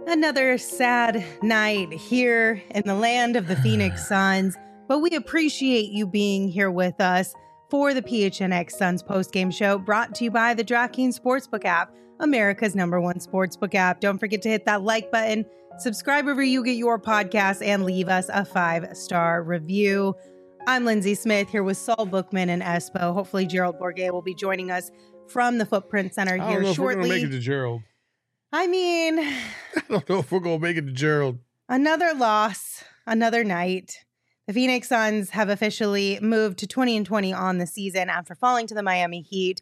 Another sad night here in the land of the Phoenix Suns, but we appreciate you being here with us for the PHNX Suns postgame show, brought to you by the DraftKings Sportsbook app, America's #1 sportsbook app. Don't forget to hit that like button, subscribe wherever you get your podcasts, and leave us a 5-star review. I'm Lindsay Smith here with Saul Bookman and Espo. Hopefully Gerald Bourguet will be joining us from the Footprint Center I here don't know shortly. if we're going to make it to Gerald. I mean, I don't know if we're going to make it to Gerald. another loss, another night. The Phoenix Suns have officially moved to 20-20 on the season after falling to the Miami Heat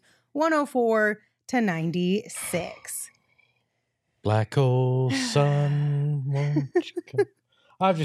104-96. Black hole sun. Won't you come? I've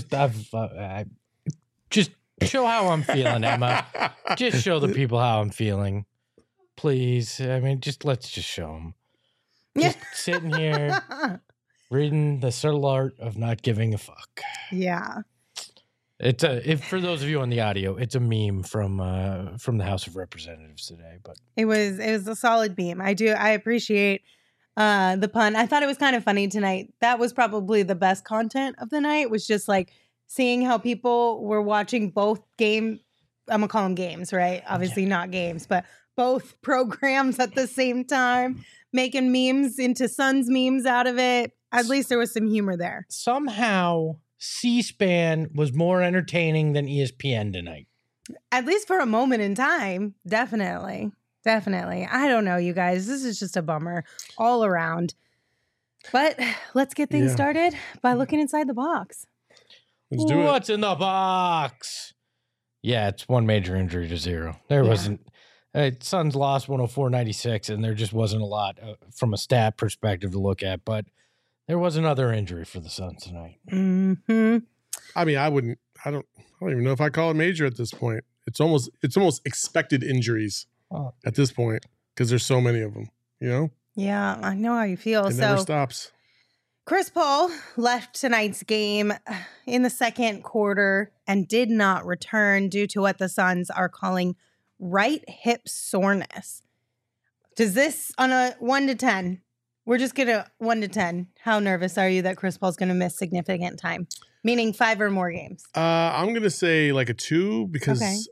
just show how I'm feeling, Emma. Just show the people how I'm feeling, please. I mean, let's just show them. Just sitting here reading the subtle art of not giving a fuck. Yeah. It's for those of you on the audio, it's a meme from the House of Representatives today. But it was a solid meme. I appreciate the pun. I thought it was kind of funny tonight. That was probably the best content of the night, was just like seeing how people were watching both I'm gonna call them games, right? Obviously not games, but both programs at the same time, making memes into Suns memes out of it. At least there was some humor there. Somehow C-SPAN was more entertaining than ESPN tonight. At least for a moment in time. Definitely. I don't know, you guys. This is just a bummer all around. But let's get things started by looking inside the box. Let's do it. What's in the box? Yeah, it's one major injury to zero. There wasn't. Suns lost 104-96, and there just wasn't a lot from a stat perspective to look at. But there was another injury for the Suns tonight. Mm-hmm. I mean, I don't even know if I call it major at this point. It's almost expected injuries at this point because there's so many of them, you know? Yeah, I know how you feel. It never stops. Chris Paul left tonight's game in the second quarter and did not return due to what the Suns are calling right hip soreness. Does this, on a 1 to 10, we're just going to 1 to 10, how nervous are you that Chris Paul's going to miss significant time? Meaning 5 or more games. I'm going to say like a 2 because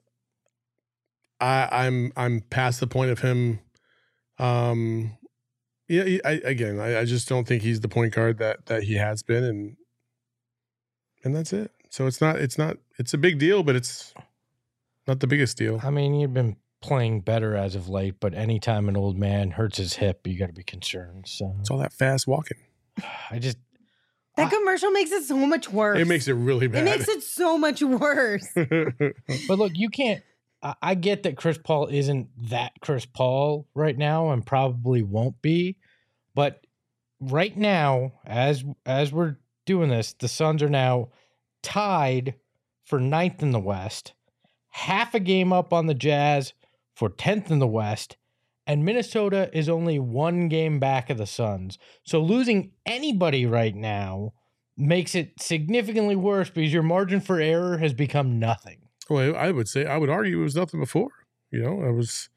I'm past the point of him. I just don't think he's the point guard that he has been, and that's it. So it's a big deal, but it's not the biggest deal. I mean, you've been playing better as of late, but anytime an old man hurts his hip, you got to be concerned. So it's all that fast walking. That commercial makes it so much worse. It makes it really bad. It makes it so much worse. But look, you can't. I get that Chris Paul isn't that Chris Paul right now and probably won't be. But right now, as we're doing this, the Suns are now tied for 9th in the West, half a game up on the Jazz for 10th in the West, and Minnesota is only 1 game back of the Suns. So losing anybody right now makes it significantly worse because your margin for error has become nothing. Well, I would argue it was nothing before. You know, it was,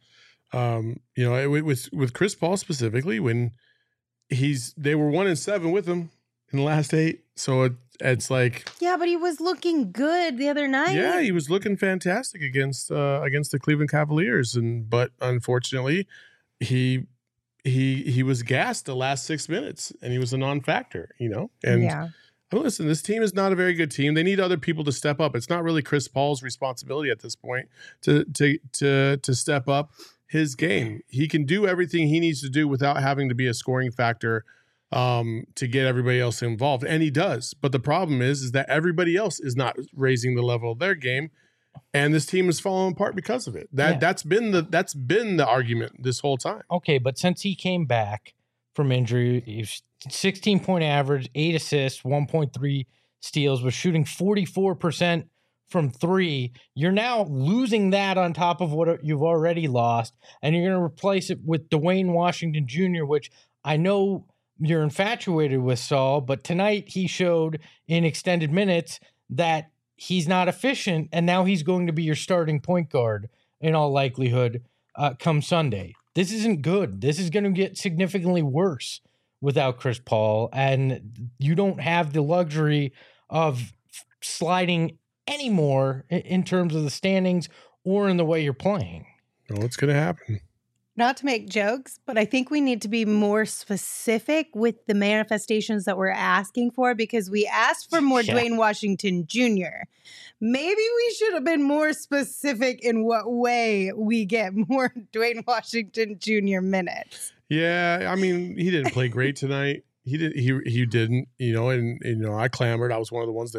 with Chris Paul specifically when they were 1-7 with him in the last 8. So it's like, yeah, but he was looking good the other night. Yeah, he was looking fantastic against the Cleveland Cavaliers, but unfortunately, he was gassed the last 6 minutes, and he was a non-factor. You know, and. Listen, this team is not a very good team. They need other people to step up. It's not really Chris Paul's responsibility at this point to step up his game. He can do everything he needs to do without having to be a scoring factor to get everybody else involved, and he does. But the problem is that everybody else is not raising the level of their game, and this team is falling apart because of it. That's been the argument this whole time. Okay, but since he came back from injury, he's 16-point average, 8 assists, 1.3 steals, was shooting 44% from 3. You're now losing that on top of what you've already lost, and you're going to replace it with Dwayne Washington Jr., which I know you're infatuated with, Saul, but tonight he showed in extended minutes that he's not efficient, and now he's going to be your starting point guard in all likelihood come Sunday. This isn't good. This is going to get significantly worse without Chris Paul, and you don't have the luxury of sliding anymore in terms of the standings or in the way you're playing. Oh, it's going to happen. Not to make jokes, but I think we need to be more specific with the manifestations that we're asking for, because we asked for more Dwayne Washington Jr. Maybe we should have been more specific in what way we get more Dwayne Washington Jr. minutes. Yeah, I mean, he didn't play great tonight. He didn't, and I clamored. I was one of the ones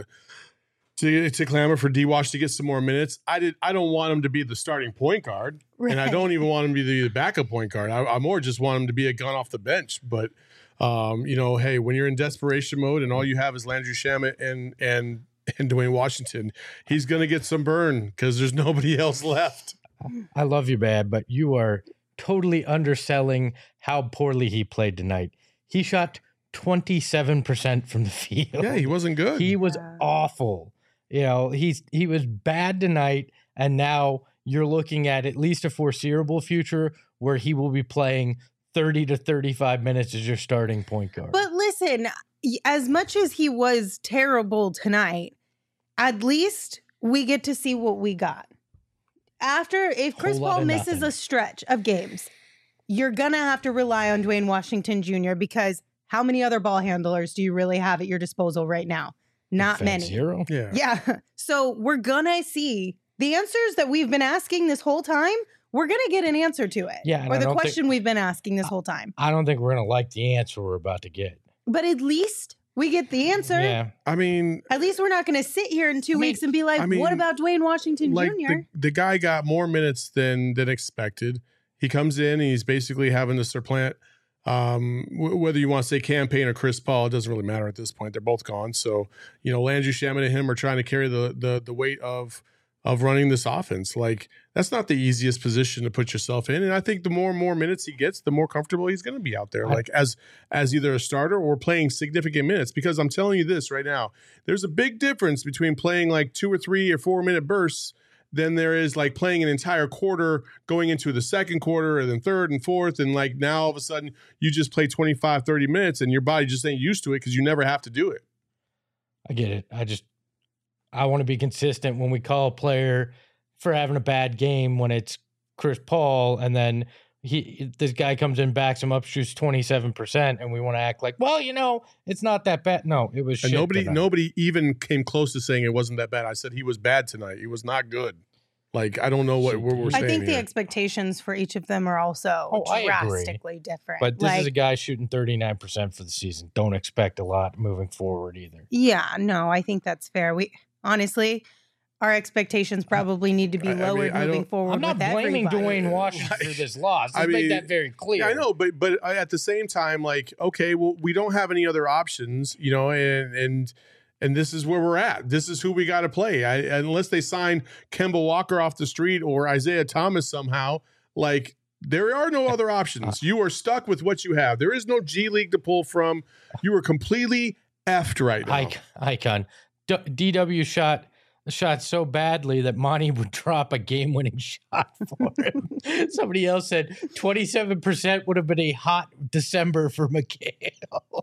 to clamor for D-Wash to get some more minutes. I don't want him to be the starting point guard, right. And I don't even want him to be the backup point guard. I more just want him to be a gun off the bench. But hey, when you're in desperation mode and all you have is Landry Shamet and Dwayne Washington, he's gonna get some burn because there's nobody else left. I love you, Bad, but you are totally underselling how poorly he played tonight. He shot 27% from the field. Yeah, he wasn't good. He was awful. He was bad tonight, and now you're looking at least a foreseeable future where he will be playing 30 to 35 minutes as your starting point guard. But listen, as much as he was terrible tonight, at least we get to see what we got. If Chris Paul misses a stretch of games, you're going to have to rely on Dwayne Washington Jr. because how many other ball handlers do you really have at your disposal right now? Not many. Zero. Yeah. So we're going to see the answers that we've been asking this whole time. We're going to get an answer to it. Yeah. Or the question we've been asking this whole time. I don't think we're going to like the answer we're about to get. But at least we get the answer. Yeah. I mean, at least we're not going to sit here in 2 weeks and be like, what about Dwayne Washington Jr.? The guy got more minutes than expected. He comes in and he's basically having to supplant whether you want to say campaign or Chris Paul, it doesn't really matter at this point. They're both gone. So, Landry Shamet and him are trying to carry the weight of running this offense. Like, that's not the easiest position to put yourself in. And I think the more and more minutes he gets, the more comfortable he's going to be out there, like as either a starter or playing significant minutes. Because I'm telling you this right now, there's a big difference between playing like 2 or 3 or 4 minute bursts than there is like playing an entire quarter going into the second quarter and then third and fourth. And like now all of a sudden you just play 25, 30 minutes and your body just ain't used to it because you never have to do it. I get it. I want to be consistent when we call a player for having a bad game when it's Chris Paul and then this guy comes in, backs him up, shoots 27%, and we want to act like, well, it's not that bad. No, it was shit. And nobody even came close to saying it wasn't that bad. I said he was bad tonight. He was not good. Like, I don't know what we're saying. I think the here. expectations for each of them are also drastically different. But this is a guy shooting 39% for the season. Don't expect a lot moving forward either. Yeah, no, I think that's fair. Honestly, our expectations probably need to be lowered moving forward. I'm not blaming Dwayne Washington for this loss. Let's make that very clear. Yeah, I know, but at the same time, like, okay, well, we don't have any other options, and this is where we're at. This is who we got to play. Unless they sign Kemba Walker off the street or Isaiah Thomas somehow, like, there are no other options. You are stuck with what you have. There is no G League to pull from. You are completely effed right now. Icon. DW shot so badly that Monty would drop a game-winning shot for him. Somebody else said 27% would have been a hot December for Mikal.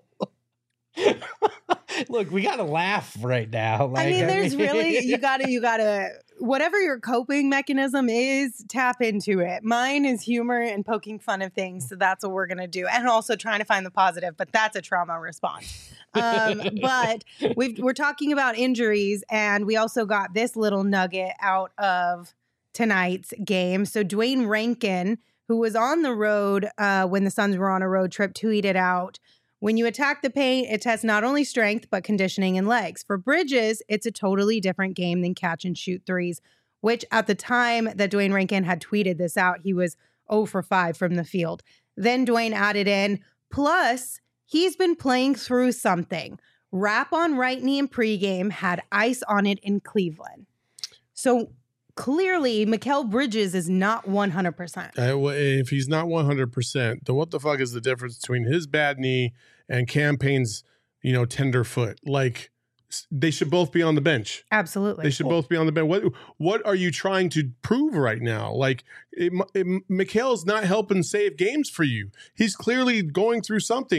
Look, we got to laugh right now. Like, you gotta, whatever your coping mechanism is, tap into it. Mine is humor and poking fun of things. So that's what we're going to do. And also trying to find the positive, but that's a trauma response. But we're talking about injuries, and we also got this little nugget out of tonight's game. So Duane Rankin, who was on the road when the Suns were on a road trip, tweeted out, "When you attack the paint, it tests not only strength, but conditioning and legs. For Bridges, it's a totally different game than catch and shoot threes," which at the time that Duane Rankin had tweeted this out, he was 0 for 5 from the field. Then Duane added in, plus, he's been playing through something. Wrap on right knee in pregame, had ice on it in Cleveland. So clearly, Mikal Bridges is not 100%. If he's not 100%, then what the fuck is the difference between his bad knee and Campaign's, tender foot? Like, they should both be on the bench. Absolutely. They should both be on the bench. What are you trying to prove right now? Like, Mikal's not helping save games for you. He's clearly going through something.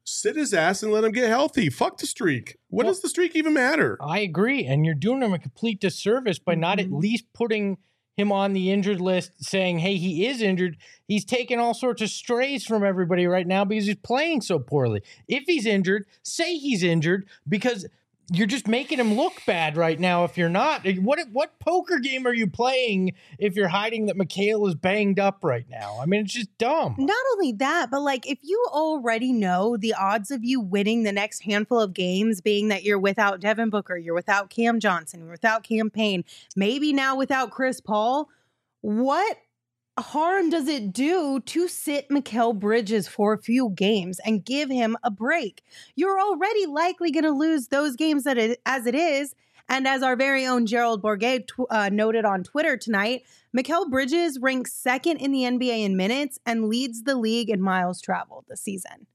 sit his ass and let him get healthy. Fuck the streak. What does the streak even matter? I agree. And you're doing him a complete disservice by not at least putting him on the injured list, saying, hey, he is injured. He's taking all sorts of strays from everybody right now because he's playing so poorly. If he's injured, say he's injured, because you're just making him look bad right now if you're not. What poker game are you playing if you're hiding that Mikal is banged up right now? I mean, it's just dumb. Not only that, but like if you already know the odds of you winning the next handful of games being that you're without Devin Booker, you're without Cam Johnson, you're without Cam Payne, maybe now without Chris Paul, what harm does it do to sit Mikal Bridges for a few games and give him a break? You're already likely going to lose those games as it is. And as our very own Gerald Bourguet noted on Twitter tonight, Mikal Bridges ranks second in the NBA in minutes and leads the league in miles traveled this season.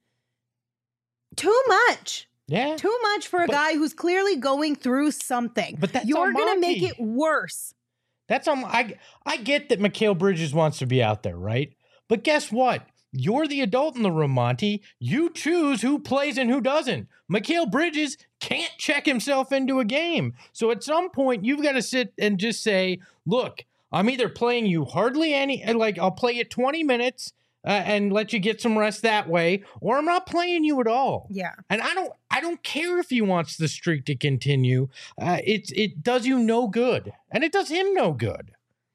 Too much. Yeah. Too much for a guy who's clearly going through something. But that's you're going to make it worse. That's I get that Mikal Bridges wants to be out there, right? But guess what? You're the adult in the room, Monty. You choose who plays and who doesn't. Mikal Bridges can't check himself into a game. So at some point, you've got to sit and just say, look, I'm either playing you hardly any, like I'll play you 20 minutes and let you get some rest that way, or I'm not playing you at all. Yeah. And I don't care if he wants the streak to continue. It does you no good, and it does him no good.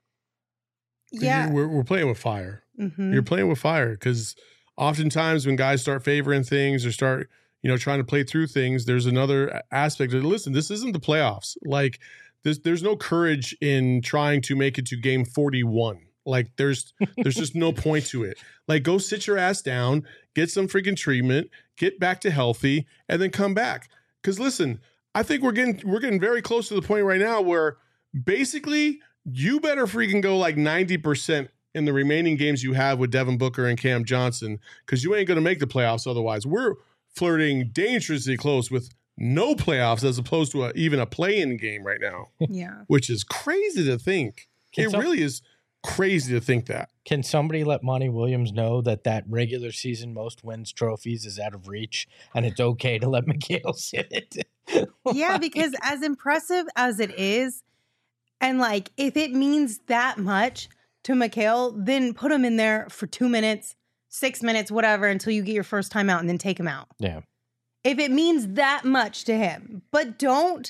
Yeah. We're playing with fire. Mm-hmm. You're playing with fire because oftentimes when guys start favoring things or start, trying to play through things, there's another aspect of, listen, this isn't the playoffs. Like there's no courage in trying to make it to game 41. Like there's just no point to it. Like go sit your ass down, get some freaking treatment, get back to healthy, and then come back. Because listen, I think we're getting very close to the point right now where basically you better freaking go like 90% in the remaining games you have with Devin Booker and Cam Johnson, because you ain't going to make the playoffs otherwise. We're flirting dangerously close with no playoffs as opposed to even a play-in game right now. Yeah, which is crazy to think. Really is crazy to think that. Can somebody let Monty Williams know that regular season most wins trophies is out of reach and it's okay to let Mikal sit it? Yeah, because as impressive as it is, and like if it means that much to Mikal, then put him in there for 2 minutes, 6 minutes, whatever, until you get your first time out and then take him out. Yeah. If it means that much to him, but don't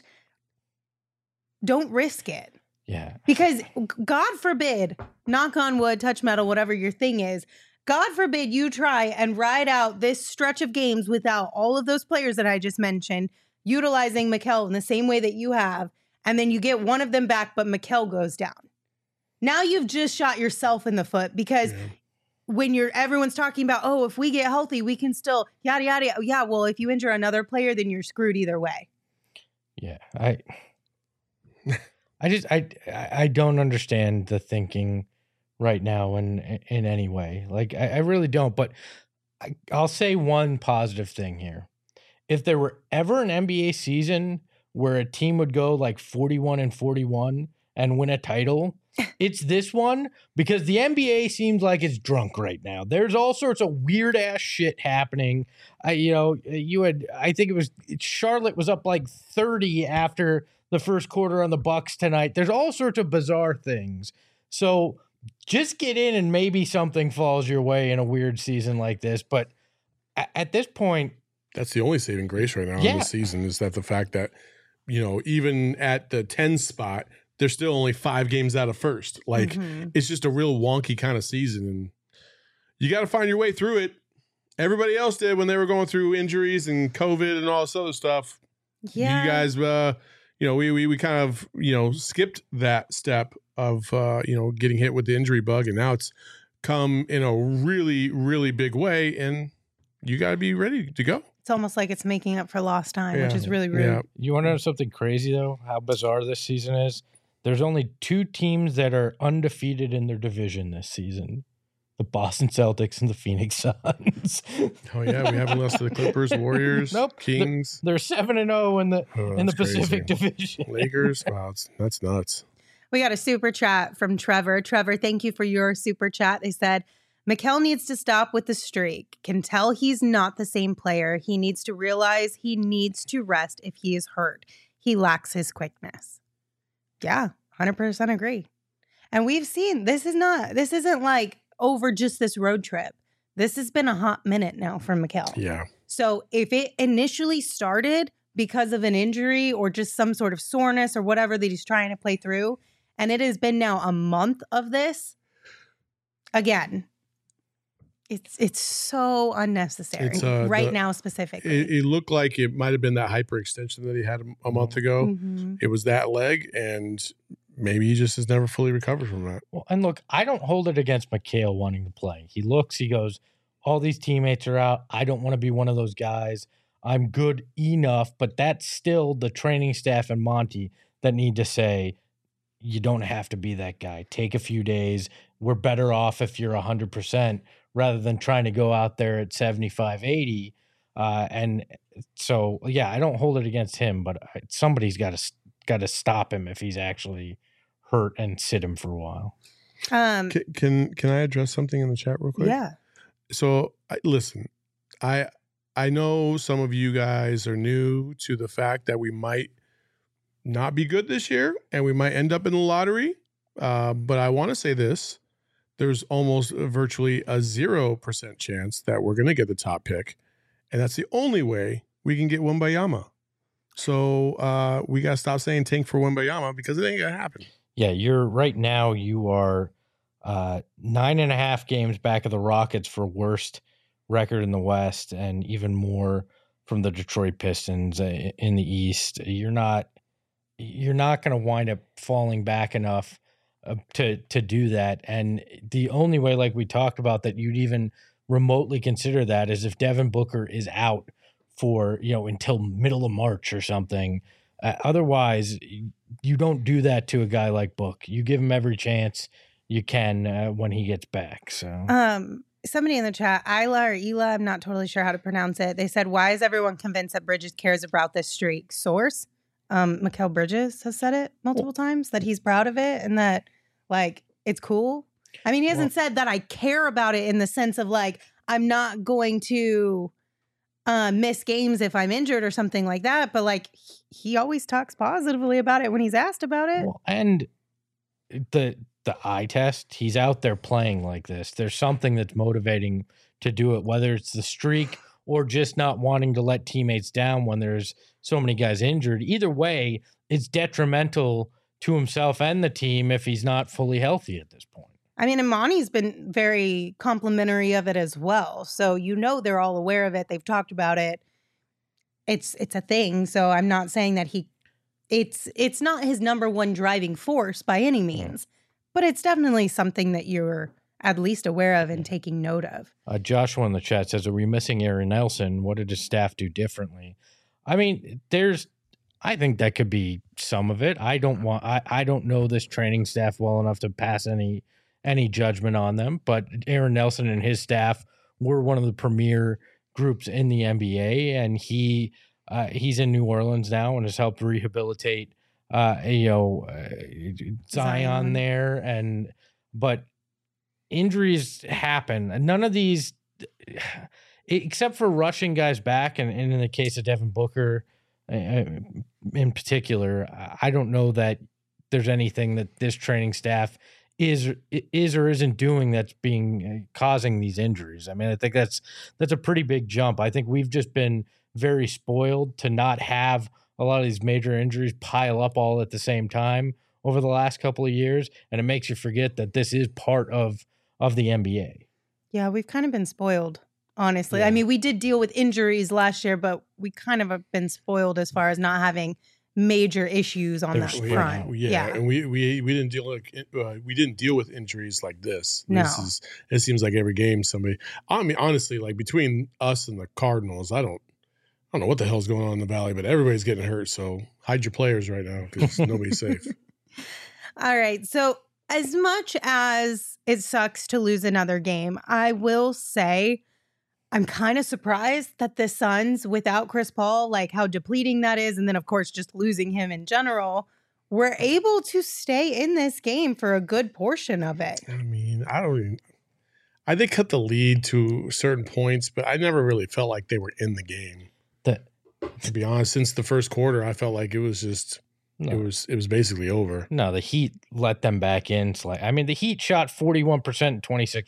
risk it. Yeah. Because God forbid, knock on wood, touch metal, whatever your thing is, God forbid you try and ride out this stretch of games without all of those players that I just mentioned, utilizing Mikal in the same way that you have, and then you get one of them back, but Mikal goes down. Now you've just shot yourself in the foot because when everyone's talking about, oh, if we get healthy, we can still yada, yada. Yeah, well, if you injure another player, then you're screwed either way. Yeah. I don't understand the thinking right now in any way. Like I really don't, but I'll say one positive thing here. If there were ever an NBA season where a team would go like 41-41 and win a title, it's this one, because the NBA seems like it's drunk right now. There's all sorts of weird ass shit happening. I think it was Charlotte was up like 30 after the first quarter on the Bucks tonight. There's all sorts of bizarre things. So just get in and maybe something falls your way in a weird season like this. But at this point, that's the only saving grace right now in this season is that the fact that, even at the 10 spot, they're still only 5 games out of first. Like it's just a real wonky kind of season. And you got to find your way through it. Everybody else did when they were going through injuries and COVID and all this other stuff. Yeah. You guys, we kind of, skipped that step of, getting hit with the injury bug. And now it's come in a really, really big way. And you got to be ready to go. It's almost like it's making up for lost time, which is really rude. Yeah. You want to know something crazy, though? How bizarre this season is? There's only 2 teams that are undefeated in their division this season. The Boston Celtics and the Phoenix Suns. Oh, yeah. We haven't lost to the Clippers, Warriors, Kings. They're 7-0 in the Pacific Division. Lakers. Wow, that's nuts. We got a super chat from Trevor. Trevor, thank you for your super chat. They said, Mikal needs to stop with the streak. Can tell he's not the same player. He needs to realize he needs to rest if he is hurt. He lacks his quickness. Yeah, 100% agree. And we've seen this isn't like over just this road trip. This has been a hot minute now for Mikal. Yeah. So if it initially started because of an injury or just some sort of soreness or whatever that he's trying to play through, and it has been now a month of this, again, it's so unnecessary now specifically. It looked like it might have been that hyperextension that he had a month ago. Mm-hmm. It was that leg, and maybe he just has never fully recovered from that. Well, and look, I don't hold it against Mikal wanting to play. He goes, all these teammates are out. I don't want to be one of those guys. I'm good enough, but that's still the training staff and Monty that need to say, you don't have to be that guy. Take a few days. We're better off if you're 100% rather than trying to go out there at 75, 80. And so, yeah, I don't hold it against him, but somebody's got to stop him if he's actually hurt and sit him for a while. Can I address something in the chat real quick? Yeah. So listen, I know some of you guys are new to the fact that we might not be good this year and we might end up in the lottery. But I want to say this. There's almost virtually a 0% chance that we're going to get the top pick. And that's the only way we can get Wembanyama. So we got to stop saying tank for Wembanyama because it ain't going to happen. Yeah, right now you are 9.5 games back of the Rockets for worst record in the West and even more from the Detroit Pistons in the East. You're not going to wind up falling back enough to do that. And the only way, like we talked about, that you'd even remotely consider that is if Devin Booker is out for, until middle of March or something. Otherwise, you don't do that to a guy like Book. You give him every chance you can when he gets back. So, somebody in the chat, Isla or Ela, I'm not totally sure how to pronounce it. They said, "Why is everyone convinced that Bridges cares about this streak?" Source, Mikal Bridges has said it multiple times that he's proud of it and that it's cool. I mean, he hasn't said that I care about it in the sense of I'm not going to miss games if I'm injured or something like that. But he always talks positively about it when he's asked about it. Well, and the eye test, he's out there playing like this. There's something that's motivating to do it, whether it's the streak or just not wanting to let teammates down when there's so many guys injured. Either way, it's detrimental to himself and the team if he's not fully healthy at this point. I mean, Imani's been very complimentary of it as well. So, they're all aware of it. They've talked about it. It's a thing. So I'm not saying that it's not his number one driving force by any means, but it's definitely something that you're at least aware of and taking note of. Joshua in the chat says, are we missing Aaron Nelson? What did his staff do differently? I mean, I think that could be some of it. I don't know this training staff well enough to pass any judgment on them, but Aaron Nelson and his staff were one of the premier groups in the NBA, and he's in New Orleans now and has helped rehabilitate Zion there. But injuries happen. None of these, except for rushing guys back, and in the case of Devin Booker in particular, I don't know that there's anything that this training staff is or isn't doing that's causing these injuries. I mean, I think that's a pretty big jump. I think we've just been very spoiled to not have a lot of these major injuries pile up all at the same time over the last couple of years, and it makes you forget that this is part of the NBA. Yeah, we've kind of been spoiled, honestly. Yeah. I mean, we did deal with injuries last year, but we kind of have been spoiled as far as not having major issues on that front. Yeah, and we didn't deal with injuries like this. No. It seems like every game somebody. I mean, honestly, between us and the Cardinals, I don't know what the hell's going on in the Valley, but everybody's getting hurt. So hide your players right now because nobody's safe. All right. So as much as it sucks to lose another game, I will say I'm kind of surprised that the Suns, without Chris Paul, how depleting that is, and then, of course, just losing him in general, were able to stay in this game for a good portion of it. I mean, They cut the lead to certain points, but I never really felt like they were in the game. To be honest, since the first quarter, I felt like it was just it was basically over. No, the Heat let them back in. I mean, the Heat shot 41% and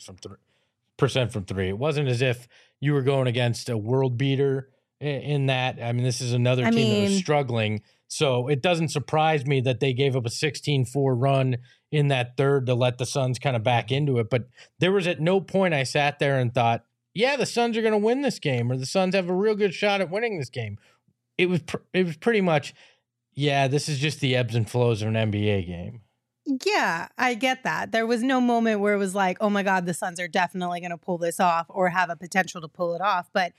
26% from three. It wasn't as if you were going against a world beater in that. I mean, this is another team that was struggling. So it doesn't surprise me that they gave up a 16-4 run in that third to let the Suns kind of back into it. But there was at no point I sat there and thought, yeah, the Suns are going to win this game, or the Suns have a real good shot at winning this game. It was pretty much, yeah, this is just the ebbs and flows of an NBA game. Yeah, I get that. There was no moment where it was like, oh my God, the Suns are definitely going to pull this off or have a potential to pull it off. But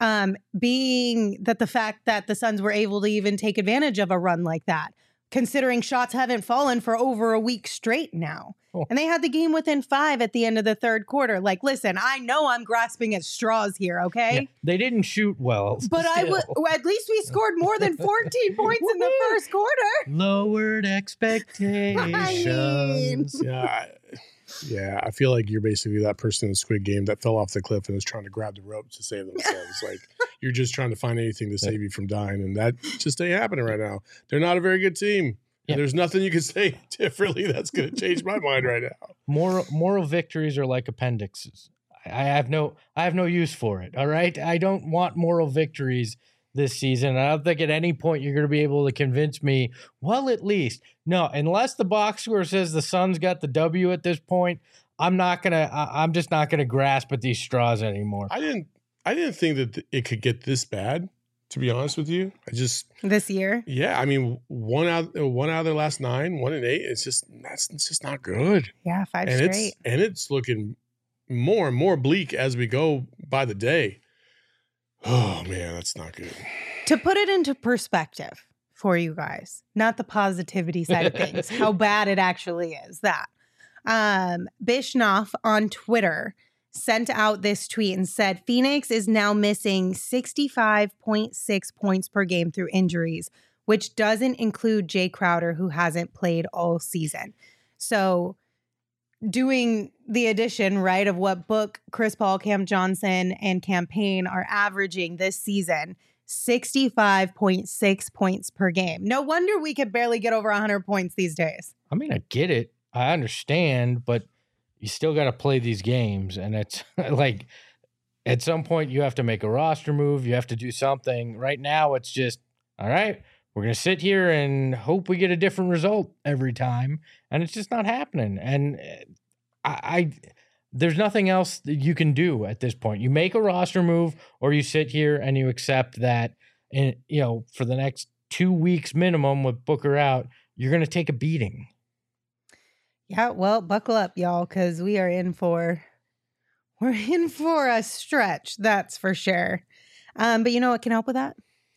being that the fact that the Suns were able to even take advantage of a run like that, considering shots haven't fallen for over a week straight now. Oh. And they had the game within 5 at the end of the third quarter. Like, listen, I know I'm grasping at straws here, okay? Yeah, they didn't shoot well. But at least we scored more than 14 points in the first quarter. Lowered expectations. Yeah, I feel like you're basically that person in the Squid Game that fell off the cliff and is trying to grab the rope to save themselves. Like, you're just trying to find anything to save you from dying, and that just ain't happening right now. They're not a very good team. Yeah. There's nothing you can say differently that's going to change my mind right now. Moral victories are like appendixes. I have no use for it. All right, I don't want moral victories this season. I don't think at any point you're going to be able to convince me. Well, at least no, unless the box score says the Suns got the W at this point. I'm just not gonna grasp at these straws anymore. I didn't think that it could get this bad. To be honest with you, this year. Yeah, I mean, one out of their last 9, 1-8. It's just not good. Yeah, 5 straight. It's looking more and more bleak as we go by the day. Oh man, that's not good. To put it into perspective for you guys, not the positivity side of things, how bad it actually is. That Bischoff on Twitter sent out this tweet and said Phoenix is now missing 65.6 points per game through injuries, which doesn't include Jay Crowder, who hasn't played all season. So doing the addition, right, of what Book, Chris Paul, Cam Johnson, and Cam Payne are averaging this season, 65.6 points per game. No wonder we could barely get over 100 points these days. I mean, I get it. I understand, but you still got to play these games. And it's like at some point you have to make a roster move. You have to do something. Right now it's just, all right, we're going to sit here and hope we get a different result every time. And it's just not happening. And there's nothing else that you can do at this point. You make a roster move or you sit here and you accept that, and for the next 2 weeks minimum with Booker out, you're going to take a beating. Yeah, well, buckle up, y'all, because we're in for a stretch, that's for sure. But you know what can help with that?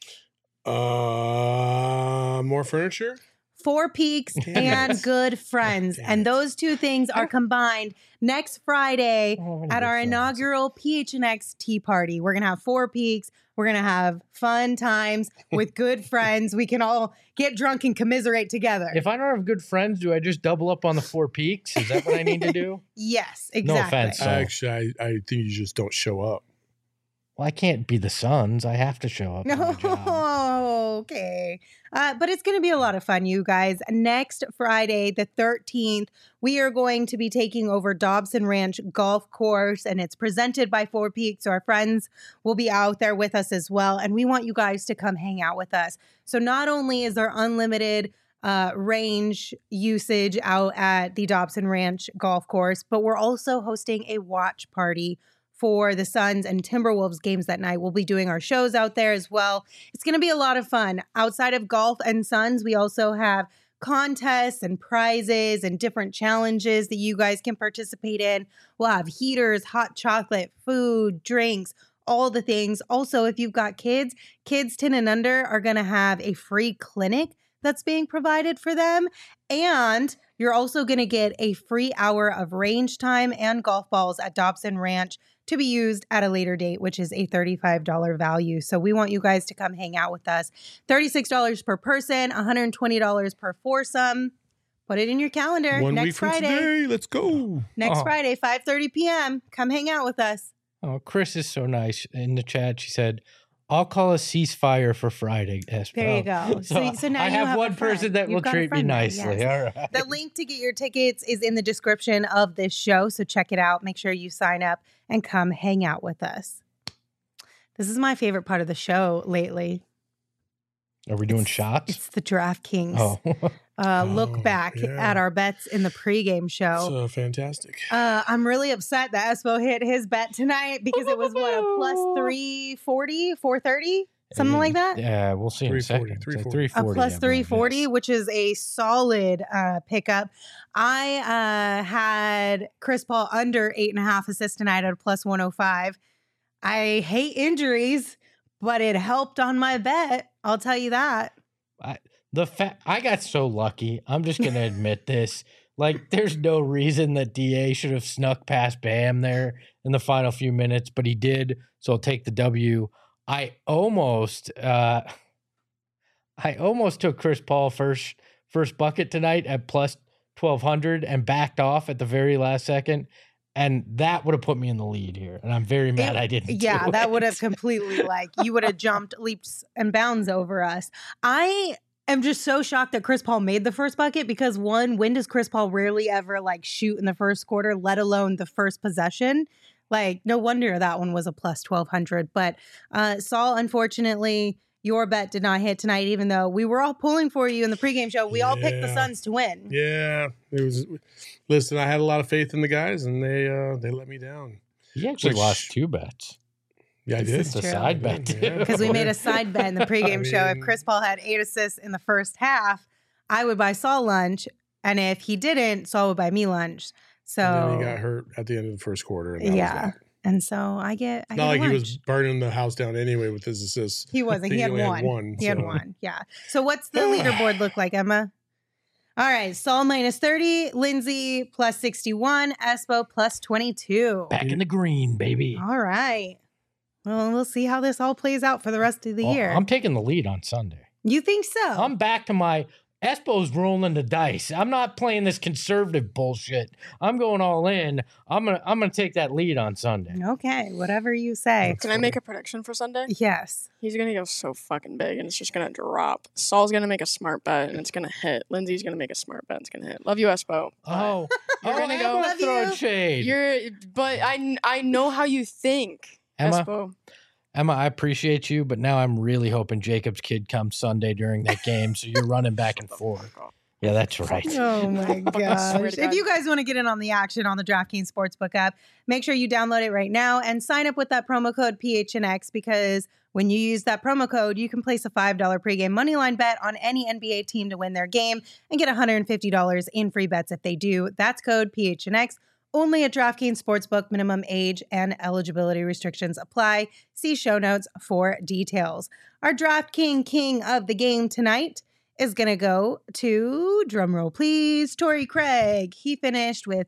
More furniture? Four Peaks and Good Friends. And those two things are combined next Friday at our inaugural PHNX Tea Party. We're going to have Four Peaks. We're going to have fun times with good friends. We can all get drunk and commiserate together. If I don't have good friends, do I just double up on the Four Peaks? Is that what I need to do? Yes, exactly. No offense. Actually, I think you just don't show up. Well, I can't be the Suns. I have to show up. Oh, okay. But it's going to be a lot of fun, you guys. Next Friday, the 13th, we are going to be taking over Dobson Ranch Golf Course, and it's presented by Four Peaks. So our friends will be out there with us as well. And we want you guys to come hang out with us. So not only is there unlimited range usage out at the Dobson Ranch Golf Course, but we're also hosting a watch party for the Suns and Timberwolves games that night. We'll be doing our shows out there as well. It's going to be a lot of fun. Outside of golf and Suns, we also have contests and prizes and different challenges that you guys can participate in. We'll have heaters, hot chocolate, food, drinks, all the things. Also, if you've got kids 10 and under are going to have a free clinic that's being provided for them. And you're also going to get a free hour of range time and golf balls at Dobson Ranch to be used at a later date, which is a $35 value. So we want you guys to come hang out with us. $36 per person, $120 per foursome. Put it in your calendar. 1 next week from Friday. today. Let's go. Next Friday, 5:30 p.m. Come hang out with us. Oh, Chris is so nice in the chat. She said, "I'll call a ceasefire for Friday." There you go. So now I you have one a friend. person that You've will got a treat me friend there, nicely. yes. All right. The link to get your tickets is in the description of this show. So check it out. Make sure you sign up and come hang out with us. This is my favorite part of the show lately. Are we doing shots? It's the DraftKings. Look back yeah. at our bets in the pregame show. So fantastic. I'm really upset that Espo hit his bet tonight because it was what, a plus 340, 430, something like that. Yeah, we'll see in a second. 340. A plus 340, yes. which is a solid pickup. I had Chris Paul under 8.5 assists tonight at a plus 105. I hate injuries, but it helped on my bet. I'll tell you that. I got so lucky. I'm just going to admit this. Like, there's no reason that DA should have snuck past Bam there in the final few minutes, but he did. So I'll take the W. I almost took Chris Paul first bucket tonight at plus 1,200 and backed off at the very last second. And that would have put me in the lead here. And I'm very mad I didn't. Yeah, that would have completely, you would have jumped leaps and bounds over us. I am just so shocked that Chris Paul made the first bucket because when does Chris Paul rarely ever shoot in the first quarter, let alone the first possession? No wonder that one was a plus 1,200. But Saul, unfortunately, your bet did not hit tonight, even though we were all pulling for you in the pregame show. We all picked the Suns to win. Yeah, it was. Listen, I had a lot of faith in the guys, and they let me down. You actually lost 2 bets. Yeah, I did. It's a side bet too. Because we made a side bet in the pregame show. If Chris Paul had 8 assists in the first half, I would buy Saul lunch, and if he didn't, Saul would buy me lunch. So and then he got hurt at the end of the first quarter. And and so I get not like lunch. He was burning the house down anyway with his assists. He wasn't. He had one. He had one. Yeah. So what's the leaderboard look like, Emma? All right. Saul minus 30, Lindsay plus 61, Espo plus 22. Back in the green, baby. All right. Well, we'll see how this all plays out for the rest of the year. I'm taking the lead on Sunday. You think so? I'm back to my Espo's rolling the dice. I'm not playing this conservative bullshit. I'm going all in. I'm gonna take that lead on Sunday. Okay, whatever you say. Can I make a prediction for Sunday? Yes. He's gonna go so fucking big, and it's just gonna drop. Saul's gonna make a smart bet, and it's gonna hit. Lindsay's gonna make a smart bet, and it's gonna hit. Love you, Espo. You're gonna go. Love throwing you. shade. But I know how you think, Espo. Emma, I appreciate you, but now I'm really hoping Jacob's kid comes Sunday during that game, so you're running back and forth. Yeah, that's right. Oh my gosh. If you guys want to get in on the action on the DraftKings Sportsbook app, make sure you download it right now and sign up with that promo code PHNX because when you use that promo code, you can place a $5 pregame moneyline bet on any NBA team to win their game and get $150 in free bets if they do. That's code PHNX. Only at DraftKings Sportsbook. Minimum age and eligibility restrictions apply. See show notes for details. Our DraftKings king of the game tonight is going to go to, drumroll please, Torrey Craig. He finished with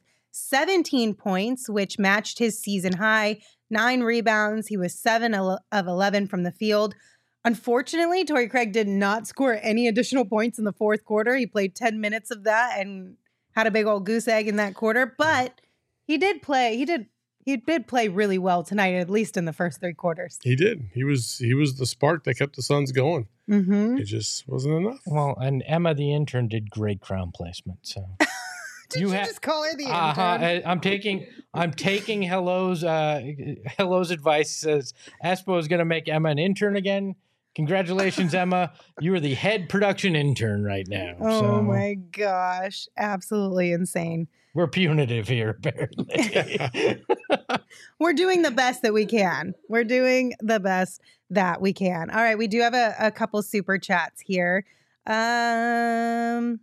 17 points, which matched his season high, 9 rebounds. He was 7 of 11 from the field. Unfortunately, Torrey Craig did not score any additional points in the fourth quarter. He played 10 minutes of that and had a big old goose egg in that quarter, but he did play really well tonight, at least in the first 3 quarters. He did. He was the spark that kept the Suns going. Mm-hmm. It just wasn't enough. Well, and Emma, the intern, did great crown placement. So Did you just call her the intern? I'm taking Hello's advice. Says Espo is going to make Emma an intern again. Congratulations, Emma. You are the head production intern right now. Oh my gosh. Absolutely insane. We're punitive here, apparently. We're doing the best that we can. All right. We do have a couple super chats here. Icon?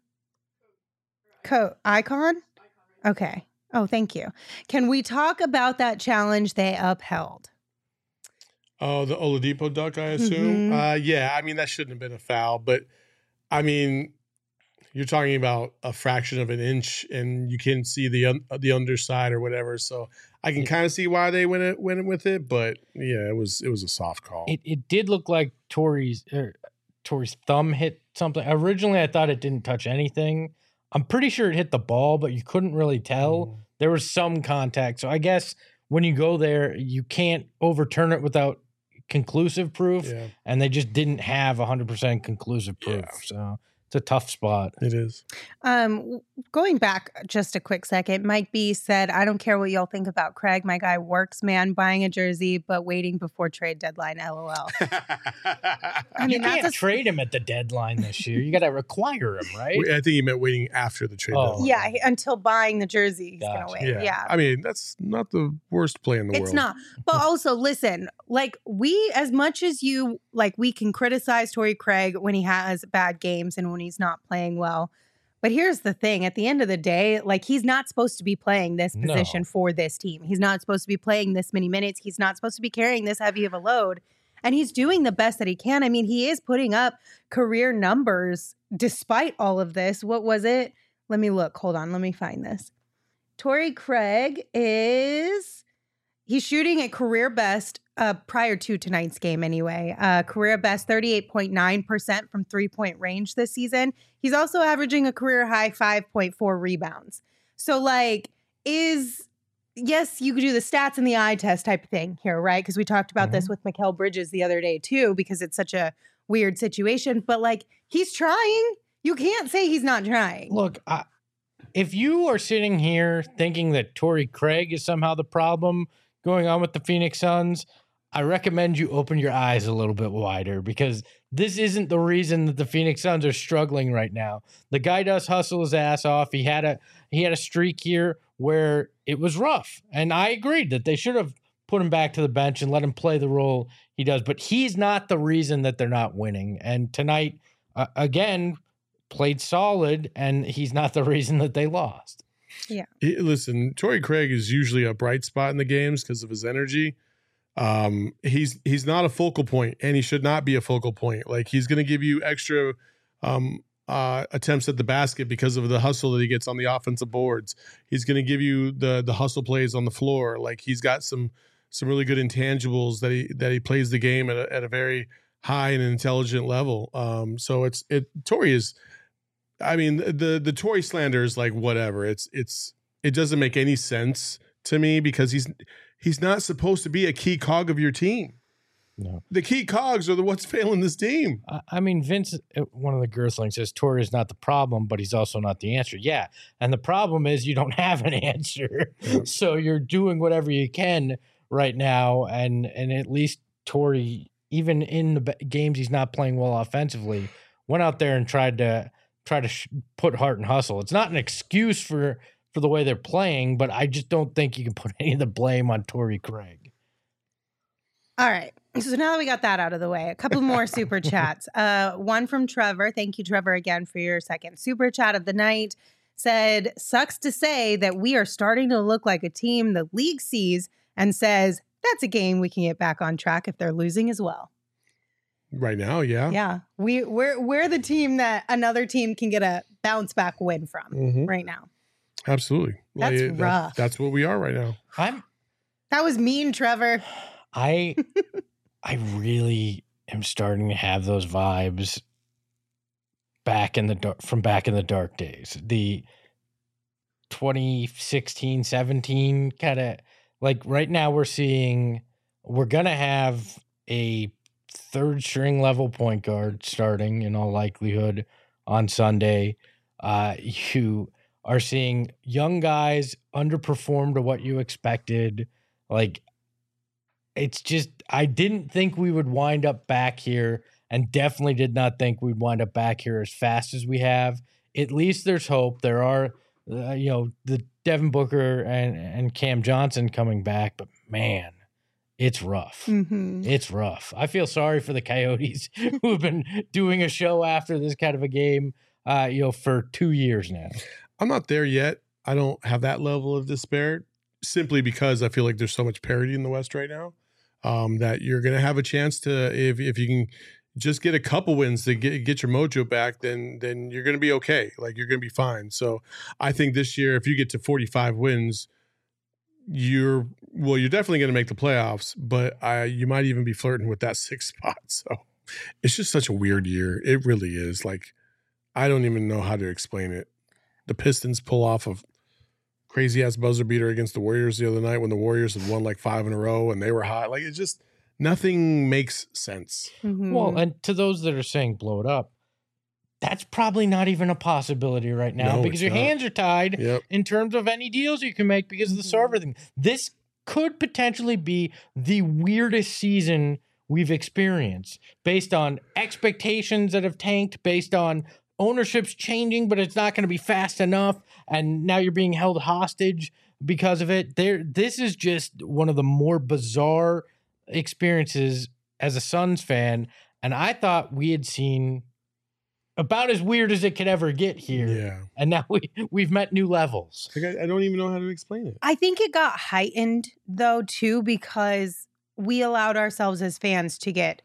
Okay. Oh, thank you. Can we talk about that challenge they upheld? Oh, the Oladipo dunk, I assume. Mm-hmm. Yeah, I mean, that shouldn't have been a foul, but I mean, you're talking about a fraction of an inch, and you can see the underside or whatever. So I can kind of see why they went with it, but yeah, it was a soft call. It did look like Torrey's thumb hit something. Originally, I thought it didn't touch anything. I'm pretty sure it hit the ball, but you couldn't really tell. There was some contact. So I guess when you go there, you can't overturn it without conclusive proof. Yeah. And they just didn't have 100% conclusive proof. Yeah. So it's a tough spot. It is. Going back just a quick second, Mike B said, I don't care what y'all think about Craig. My guy works, man, buying a jersey, but waiting before trade deadline, LOL. I You can't trade him at the deadline this year. You got to require him, right? I think he meant waiting after the trade deadline. Yeah, until buying the jersey, he's Gotcha. going to wait. Yeah. I mean, that's not the worst play in the world. It's not. But also, listen, like we, as much as you, like we can criticize Torrey Craig when he has bad games and when he's not playing well. But here's the thing. At the end of the day, like he's not supposed to be playing this position for this team. He's not supposed to be playing this many minutes. He's not supposed to be carrying this heavy of a load. And he's doing the best that he can. I mean, he is putting up career numbers despite all of this. What was it? Let me look. Hold on. Let me find this. Torrey Craig he's shooting at career best prior to tonight's game anyway. Career best 38.9% from 3-point range this season. He's also averaging a career high 5.4 rebounds. So like yes, you could do the stats and the eye test type of thing here, right? Because we talked about this with Mikal Bridges the other day too, because it's such a weird situation. But like he's trying. You can't say he's not trying. Look, if you are sitting here thinking that Torrey Craig is somehow the problem going on with the Phoenix Suns, I recommend you open your eyes a little bit wider, because this isn't the reason that the Phoenix Suns are struggling right now. The guy does hustle his ass off. He had a streak here where it was rough, and I agreed that they should have put him back to the bench and let him play the role he does. But he's not the reason that they're not winning. And tonight, again, played solid, and he's not the reason that they lost. Yeah. Listen, Torrey Craig is usually a bright spot in the games because of his energy. He's not a focal point, and he should not be a focal point. Like he's going to give you extra attempts at the basket because of the hustle that he gets on the offensive boards. He's going to give you the hustle plays on the floor. Like he's got some really good intangibles that he plays the game at a very high and intelligent level. So Torrey is. I mean, the Torrey slander is like whatever. It doesn't make any sense to me because he's not supposed to be a key cog of your team. No, the key cogs are what's failing this team. I mean, Vince, one of the Girthlings says Torrey is not the problem, but he's also not the answer. Yeah, and the problem is you don't have an answer, so you're doing whatever you can right now, and at least Torrey, even in the games he's not playing well offensively, went out there and tried to put heart and hustle. It's not an excuse for the way they're playing, but I just don't think you can put any of the blame on Torrey Craig. All right. So now that we got that out of the way, a couple more super chats. One from Trevor. Thank you, Trevor, again for your second super chat of the night. Said, sucks to say that we are starting to look like a team the league sees and says, that's a game we can get back on track if they're losing as well. Right now, yeah. Yeah. We're the team that another team can get a bounce back win from right now. Absolutely. That's rough. That's what we are right now. That was mean, Trevor. I really am starting to have those vibes from back in the dark days. The 2016-17 kind of, like right now we're going to have a third string level point guard starting in all likelihood on Sunday. You are seeing young guys underperform to what you expected. Like, it's just, I didn't think we would wind up back here, and definitely did not think we'd wind up back here as fast as we have. At least there's hope. There are, the Devin Booker and Cam Johnson coming back, but man, it's rough. Mm-hmm. It's rough. I feel sorry for the Coyotes who have been doing a show after this kind of a game, for 2 years now. I'm not there yet. I don't have that level of despair, simply because I feel like there's so much parity in the West right now, that you're going to have a chance to, if you can just get a couple wins to get your mojo back, then you're going to be okay. Like you're going to be fine. So I think this year, if you get to 45 wins, you're definitely going to make the playoffs, but you might even be flirting with that 6th spot. So it's just such a weird year. It really is. Like, I don't even know how to explain it. the Pistons pull off a crazy ass buzzer beater against the Warriors the other night when the Warriors had won like 5 in a row and they were hot. Like, it's just nothing makes sense. Mhm. Well, and to those that are saying blow it up, that's probably not even a possibility right now No, because it's your not. hands are tied Yep. in terms of any deals you can make because of the server thing. This could potentially be the weirdest season we've experienced based on expectations that have tanked, based on ownership's changing, but it's not going to be fast enough. And now you're being held hostage because of it. This is just one of the more bizarre experiences as a Suns fan. And I thought we had seen about as weird as it could ever get here. Yeah. And now we've met new levels. Like, I don't even know how to explain it. I think it got heightened though too because we allowed ourselves as fans to get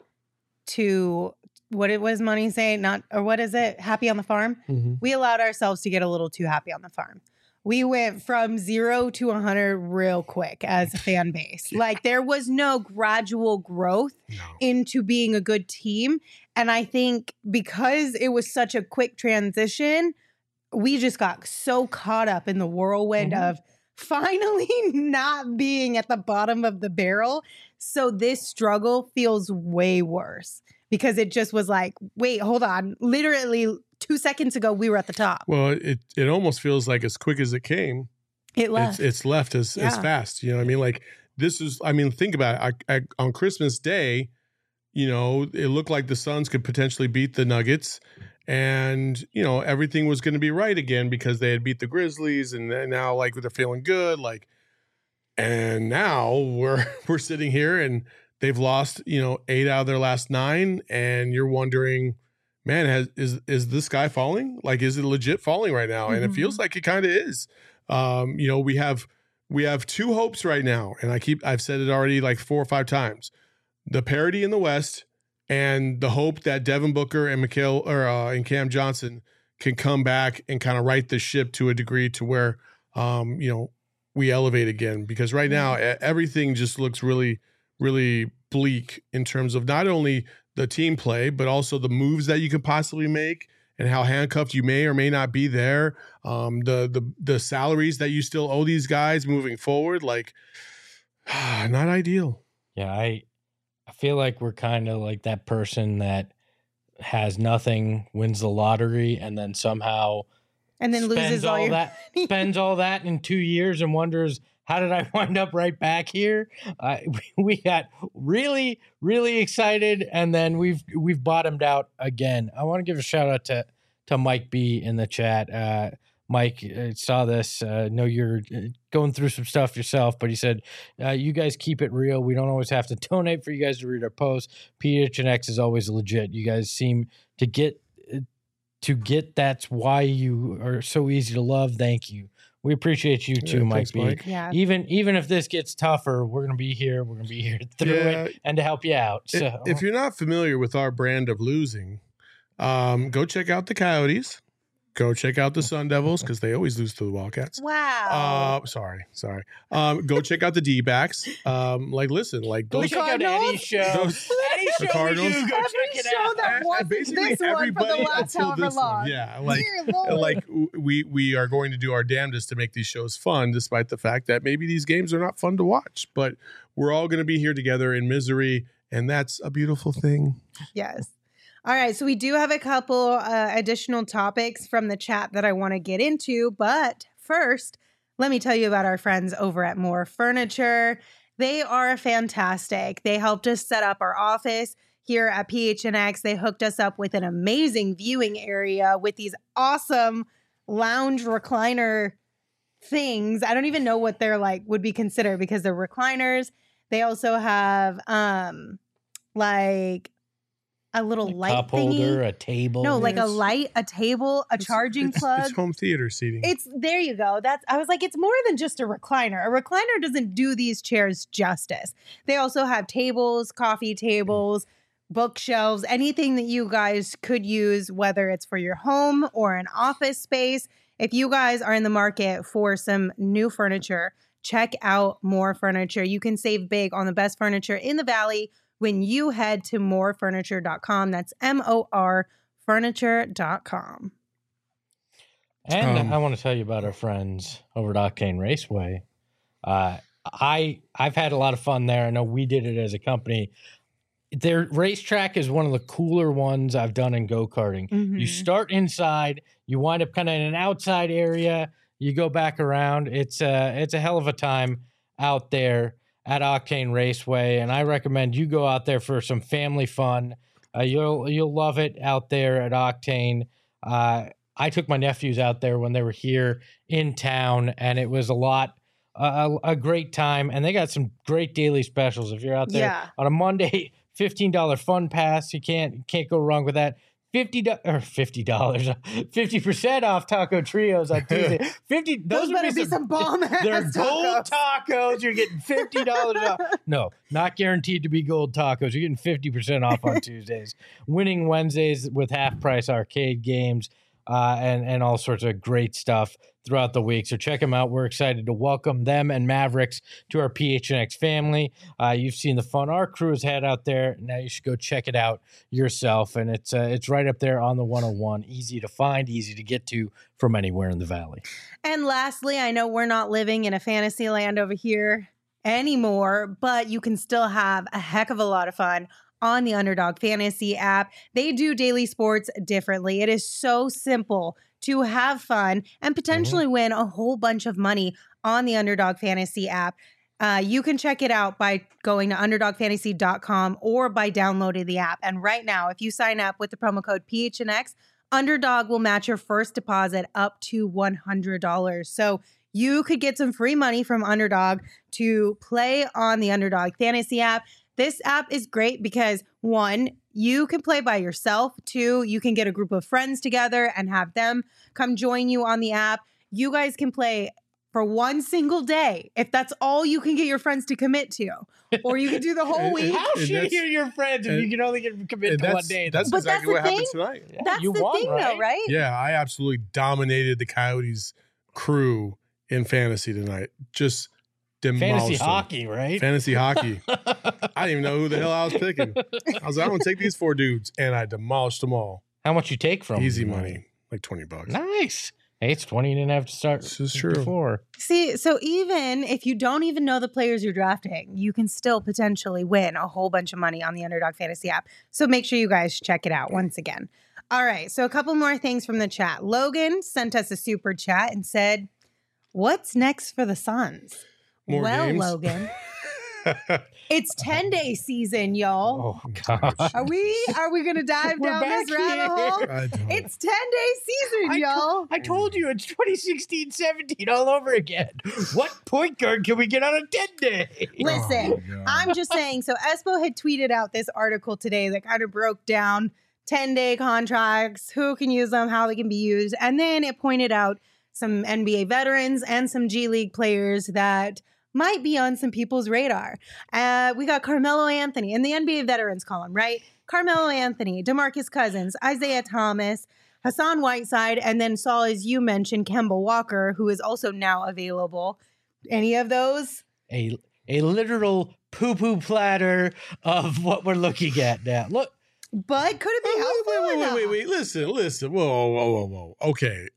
to what it was Money say, not or what is it? Happy on the farm. Mm-hmm. We allowed ourselves to get a little too happy on the farm. We went from 0 to 100 real quick as a fan base. Like there was no gradual growth into being a good team. And I think because it was such a quick transition, we just got so caught up in the whirlwind of finally not being at the bottom of the barrel. So this struggle feels way worse because it just was like, wait, hold on. Literally 2 seconds ago, we were at the top. Well, it almost feels like as quick as it came, It left. it's left as fast. You know what I mean? Like this is, I mean, think about it. On Christmas Day, you know, it looked like the Suns could potentially beat the Nuggets and, you know, everything was going to be right again because they had beat the Grizzlies and now like they're feeling good. Like, and now we're sitting here and they've lost, you know, 8 out of their last 9. And you're wondering, man, is this guy falling? Like, is it legit falling right now? And it feels like it kind of is. You know, we have 2 hopes right now. And I've said it already like 4 or 5 times. The parity in the West and the hope that Devin Booker and and Cam Johnson can come back and kind of right the ship to a degree to where, you know, we elevate again. Because right now everything just looks really, really bleak in terms of not only the team play, but also the moves that you can possibly make and how handcuffed you may or may not be there. The salaries that you still owe these guys moving forward, like not ideal. Yeah, I feel like we're kind of like that person that has nothing, wins the lottery, and then somehow and then loses all your that, spends all that in 2 years and wonders, how did I wind up right back here? We got really, really excited, and then we've bottomed out again. I want to give a shout out to Mike B in the chat. Mike saw this. Know you're going through some stuff yourself, but he said, "You guys keep it real. We don't always have to donate for you guys to read our posts. PHNX is always legit. You guys seem to get. That's why you are so easy to love. Thank you." We appreciate you too, Mike B. Mike. Yeah. Even if this gets tougher, we're gonna be here. We're gonna be here through it and to help you out. So If you're not familiar with our brand of losing, go check out the Coyotes. Go check out the Sun Devils because they always lose to the Wildcats. Wow. Sorry. Go check out the D-backs. Listen, like go those. check out Eddie's show. The Show Cardinals. we do, go Every check it show out. that wasn't Basically this one for the everybody last until however this one. long. Yeah, Dear Lord. we are going to do our damnedest to make these shows fun, despite the fact that maybe these games are not fun to watch. But we're all going to be here together in misery, and that's a beautiful thing. Yes. All right. So we do have a couple additional topics from the chat that I want to get into. But first, let me tell you about our friends over at More Furniture. They are fantastic. They helped us set up our office here at PHNX. They hooked us up with an amazing viewing area with these awesome lounge recliner things. I don't even know what they're like would be considered because they're recliners. They also have like a little light cup thingy. holder, a table. No, like a Yes. light, a table, a charging plug. It's home theater seating. It's there you go. I was like, it's more than just a recliner. A recliner doesn't do these chairs justice. They also have tables, coffee tables, bookshelves, anything that you guys could use, whether it's for your home or an office space. If you guys are in the market for some new furniture, check out More Furniture. You can save big on the best furniture in the Valley when you head to morefurniture.com. That's MOR furniture.com. And I want to tell you about our friends over at Octane Raceway. I've had a lot of fun there. I know we did it as a company. Their racetrack is one of the cooler ones I've done in go-karting. Mhm. You start inside, you wind up kind of in an outside area, you go back around. It's a hell of a time out there at Octane Raceway, and I recommend you go out there for some family fun. You'll love it out there at Octane. I took my nephews out there when they were here in town, and it was a great time. And they got some great daily specials. If you're out there on a Monday, $15 fun pass, you can't go wrong with that. $50 off taco trios on Tuesday. Those better be some bomb ass. They're gold tacos. You're getting $50 off. No, not guaranteed to be gold tacos. You're getting 50% off on Tuesdays. Winning Wednesdays with half price arcade games. And all sorts of great stuff throughout the week. So check them out. We're excited to welcome them and Mavericks to our PHNX family. You've seen the fun our crew has had out there. Now you should go check it out yourself. And it's right up there on the 101. Easy to find, easy to get to from anywhere in the valley. And lastly, I know we're not living in a fantasy land over here anymore, but you can still have a heck of a lot of fun on the Underdog Fantasy app. They do daily sports differently. It is so simple to have fun and potentially win a whole bunch of money on the Underdog Fantasy app. You can check it out by going to underdogfantasy.com or by downloading the app. And right now, if you sign up with the promo code PHNX, Underdog will match your first deposit up to $100. So you could get some free money from Underdog to play on the Underdog Fantasy app. This app is great because, one, you can play by yourself. Two, you can get a group of friends together and have them come join you on the app. You guys can play for one single day if that's all you can get your friends to commit to. Or you can do the whole week. How shitty are your friends if you can only commit to 1 day? That's exactly what happened tonight. Yeah, That's the thing, though, right? Yeah, I absolutely dominated the Coyotes crew in fantasy tonight. Just demolished Fantasy them. hockey, right? Fantasy hockey. I didn't even know who the hell I was picking. I was like, I'm going to take these 4 dudes, and I demolished them all. How much you take from Easy them? money, like $20. Nice. Hey, it's 20 you didn't have to start This is true. before. See, so even if you don't even know the players you're drafting, you can still potentially win a whole bunch of money on the Underdog Fantasy app. So make sure you guys check it out once again. All right, so a couple more things from the chat. Logan sent us a super chat and said, "What's next for the Suns?" More well, games? Logan, it's 10-day season, y'all. Oh, gosh. Are we gonna dive We're down this back rabbit here. hole? I don't. It's 10-day season, y'all. I told you it's 2016-17 all over again. What point guard can we get on a 10-day? Listen, Oh, God. I'm just saying. So Espo had tweeted out this article today that kind of broke down 10-day contracts, who can use them, how they can be used. And then it pointed out some NBA veterans and some G League players that might be on some people's radar. We got Carmelo Anthony in the NBA veterans column, right? Carmelo Anthony, DeMarcus Cousins, Isaiah Thomas, Hassan Whiteside, and then Saul, as you mentioned, Kemba Walker, who is also now available. Any of those? A literal poo-poo platter of what we're looking at now. Look, But could it be helpful? Wait. Listen. Whoa. Okay.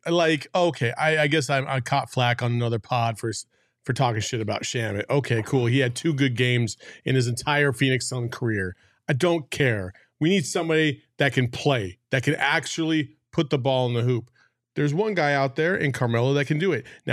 I guess I caught flack on another pod for talking shit about Shamet. Okay, cool. He had 2 good games in his entire Phoenix Sun career. I don't care. We need somebody that can play, that can actually put the ball in the hoop. There's one guy out there in Carmelo that can do it. Now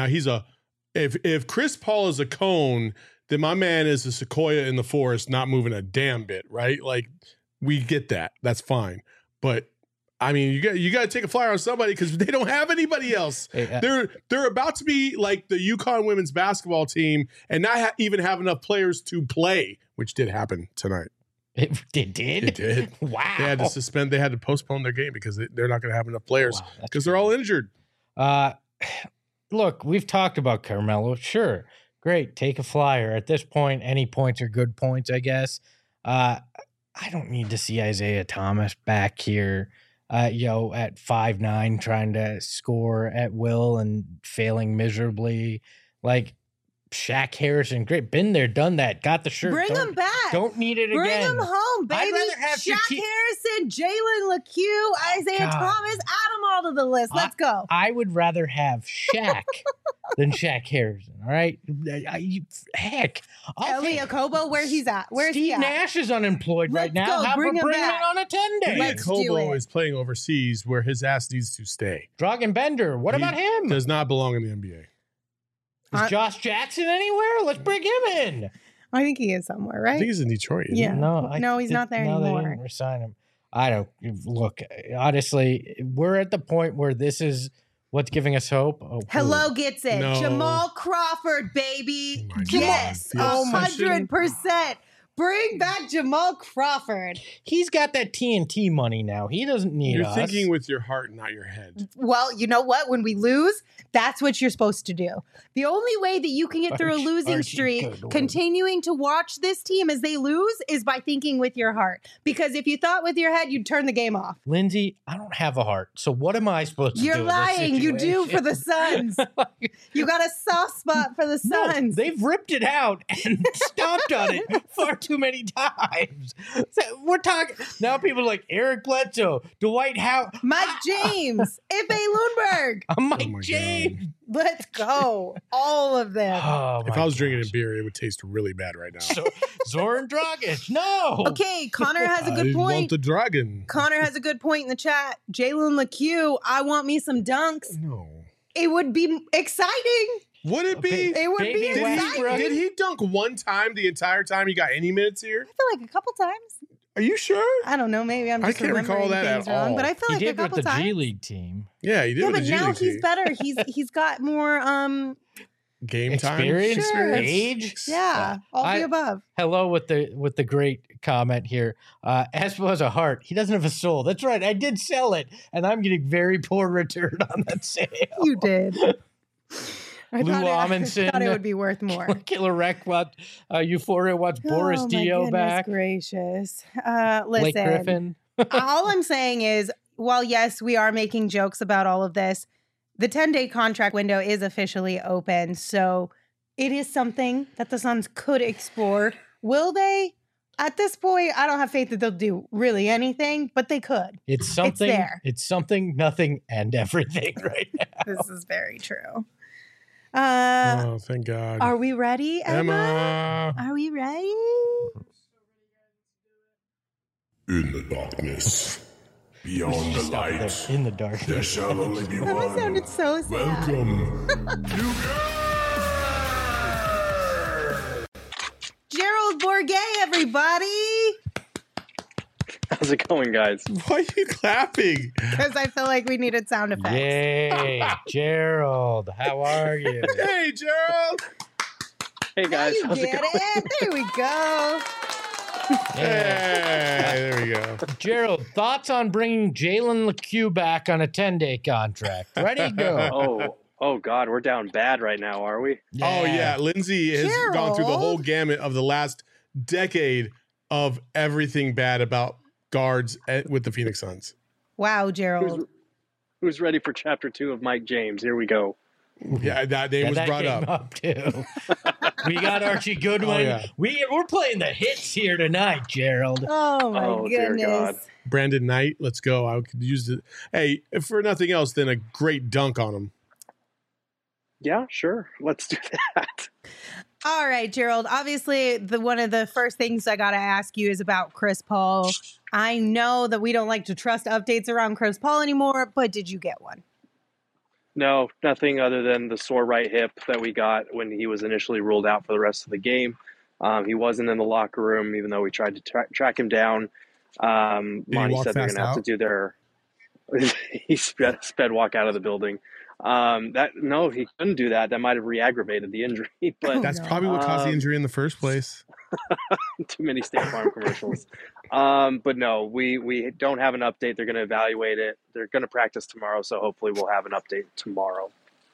if Chris Paul is a cone, then my man is a sequoia in the forest, not moving a damn bit, right? Like, we get that. That's fine. But I mean, you got to take a flyer on somebody because they don't have anybody else. Hey, They're about to be like the UConn women's basketball team and not even have enough players to play, which did happen tonight. it did. It did. Wow. They had to postpone their game because they're not going to have enough players Wow, that's because they're all injured. Look, we've talked about Carmelo. Sure, great. Take a flyer. At this point, any points are good points, I guess. I don't need to see Isaiah Thomas back here, at 5'9", trying to score at will and failing miserably. Like Shaq Harrison, great. Been there, done that. Got the shirt. Bring him back. Don't need it Bring again. him home, baby. I'd rather have Shaq Harrison, Jalen LeCue, Isaiah God. Thomas, add them all of the list. Let's go. I would rather have Shaq than Shaq Harrison. All right, heck, Elie Okobo, where he's at? Where's he Steve at? Nash is unemployed right now. Go. How Bring about him bringing him back. on a 10-day? Let's do Kobo it. is playing overseas where his ass needs to stay. Dragan Bender. What He about him? Does not belong in the NBA. Is Josh Jackson anywhere? Let's bring him in. I think he is somewhere, I right? think he's in Detroit. isn't Yeah. he? No, he's not there They anymore. didn't resign him. I don't look. Honestly, we're at the point where this is what's giving us hope. Oh, Hello gets it. No. Jamal Crawford, baby. Oh my God. Yes, The 100%. Bring back Jamal Crawford. he's got that TNT money now. He doesn't need You're us. thinking with your heart, not your head. Well, you know what? When we lose, that's what you're supposed to do. The only way that you can get through a losing Archie, streak, good Lord. continuing to watch this team as they lose, is by thinking with your heart. Because if you thought with your head, you'd turn the game off. Lindsay, I don't have a heart. So what am I supposed to do? You're in this lying. You do for the situation? Suns. You got a soft spot for the No, Suns. they've ripped it out and stomped on it far too many times. So we're talking now. People are like Eric Bledsoe, Dwight Howard, Mike James, Ife Lundberg. Mike Oh my James. Let's go. All of them. Oh, If my I was drinking gosh. a beer, it would taste really bad right now. So, Zoran Dragic, no. Okay, Connor has a I good want point. the dragon. Connor has a good point in the chat. Jalen LeCue, I want me some dunks. No. It would be exciting. Would it be? It would Baby be Did exciting. did he dunk one time the entire time he got any minutes here? I feel like a couple times. Are you sure? I don't know. Maybe I'm I just can't recall remembering that things at wrong, all. but I feel He like a did with couple the times. G League team. Yeah, he did Yeah, with but the G now League he's team. better. He's got more Game time Experience, Sure. age. yeah, all I- the above. Hello with the great comment here. Espo has a heart. He doesn't have a soul. That's right. I did sell it, and I'm getting very poor return on that sale. You did. I Lou thought Amundsen. I thought it would be worth more. Killer Wreck wants Euphoria wants Boris oh, Dio my back. Gracious. Blake Listen, Griffin. all I'm saying is, while yes, we are making jokes about all of this, the 10-day contract window is officially open. So it is something that the Suns could explore. Will they? At this point, I don't have faith that they'll do really anything, but they could. It's something. there. It's something, nothing, and everything right now. This is very true. Oh, thank God. Are we ready, Emma? Emma. Are we ready? In the darkness, beyond the light, In the dark. there shall only be Emma one. sounded so sad. Welcome. Gerald Bourguet, everybody. How's it going, guys? Why are you clapping? Because I feel like we needed sound effects. Yay, Gerald. How are you? Hey, Gerald. Hey, Now guys. you How's it get going? it. There we go. Hey, there we go. Gerald, thoughts on bringing Jalen LeCue back on a 10-day contract? Ready? Go. Oh, God, we're down bad right now, are we? Oh, yeah. Lindsay has gone through the whole Gerald. gamut of the last decade of everything bad about guards with the Phoenix Suns. Wow, Gerald. Who's ready for chapter 2 of Mike James? Here we go. Yeah, that name Yeah, was that brought came up. too. We got Archie Goodwin. Oh, yeah. We're playing the hits here tonight, Gerald. Oh, my Oh, dear goodness. God. Brandon Knight, let's go. I could use it. Hey, if for nothing else, then a great dunk on him. Yeah, sure. Let's do that. All right, Gerald. Obviously, one of the first things I got to ask you is about Chris Paul. I know that we don't like to trust updates around Chris Paul anymore, but did you get one? No, nothing other than the sore right hip that we got when he was initially ruled out for the rest of the game. He wasn't in the locker room, even though we tried to track him down. Monty walk said they're fast going to have to out? do their. He sped walk out of the building. No, he couldn't do that. That might have re-aggravated the injury, but That's no. probably what caused the Um, injury in the first place. too many State Farm commercials. But no, we don't have an update. They're going to evaluate it. They're going to practice tomorrow, so hopefully we'll have an update tomorrow.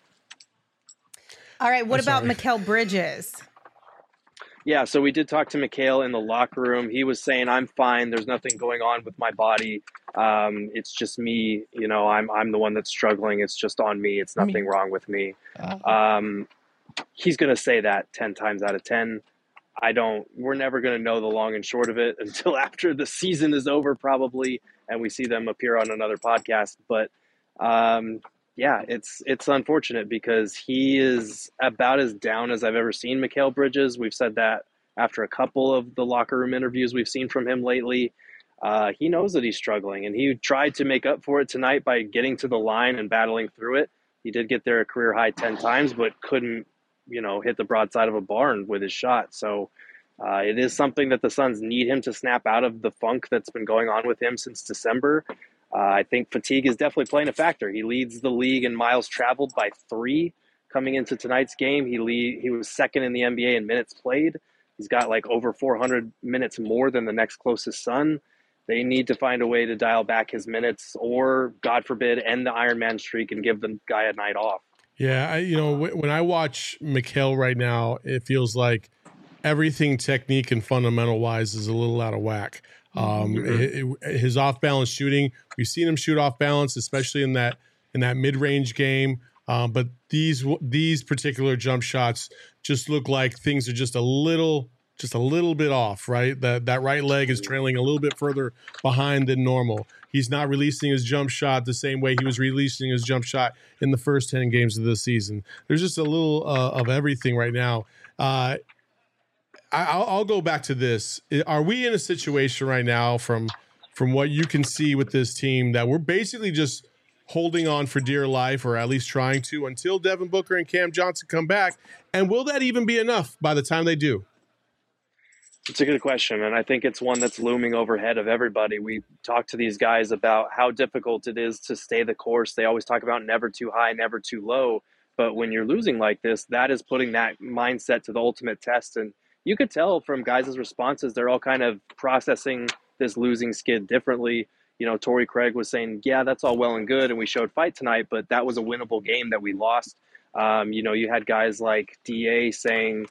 All right. What I'm about sorry. Mikal Bridges? Yeah, so we did talk to Mikhail in the locker room. He was saying, "I'm fine. There's nothing going on with my body. It's just me. You know, I'm the one that's struggling. It's just on me. It's nothing wrong with me." He's going to say that 10 times out of 10. We're never going to know the long and short of it until after the season is over, probably, and we see them appear on another podcast. But Yeah, it's unfortunate because he is about as down as I've ever seen Mikal Bridges. We've said that after a couple of the locker room interviews we've seen from him lately. He knows that he's struggling, and he tried to make up for it tonight by getting to the line and battling through it. He did get there a career high 10 times, but couldn't, hit the broadside of a barn with his shot. So it is something that the Suns need him to snap out of the funk that's been going on with him since December. I think fatigue is definitely playing a factor. He leads the league in miles traveled by 3 coming into tonight's game. He was second in the NBA in minutes played. He's got like over 400 minutes more than the next closest Sun. They need to find a way to dial back his minutes or, God forbid, end the Iron Man streak and give the guy a night off. Yeah, when I watch Mikal right now, it feels like everything technique and fundamental wise is a little out of whack. His off balance shooting, we've seen him shoot off balance, especially in that mid range game. But these particular jump shots just look like things are just a little bit off, right? That right leg is trailing a little bit further behind than normal. He's not releasing his jump shot the same way he was releasing his jump shot in the first 10 games of the season. There's just a little of everything right now. I'll go back to this. Are we in a situation right now from what you can see with this team that we're basically just holding on for dear life, or at least trying to, until Devin Booker and Cam Johnson come back? And will that even be enough by the time they do? It's a good question, and I think it's one that's looming overhead of everybody. We talk to these guys about how difficult it is to stay the course. They always talk about never too high, never too low. But when you're losing like this, that is putting that mindset to the ultimate test. And you could tell from guys' responses, they're all kind of processing this losing skid differently. Torrey Craig was saying, yeah, that's all well and good, and we showed fight tonight, but that was a winnable game that we lost. You had guys like DA saying,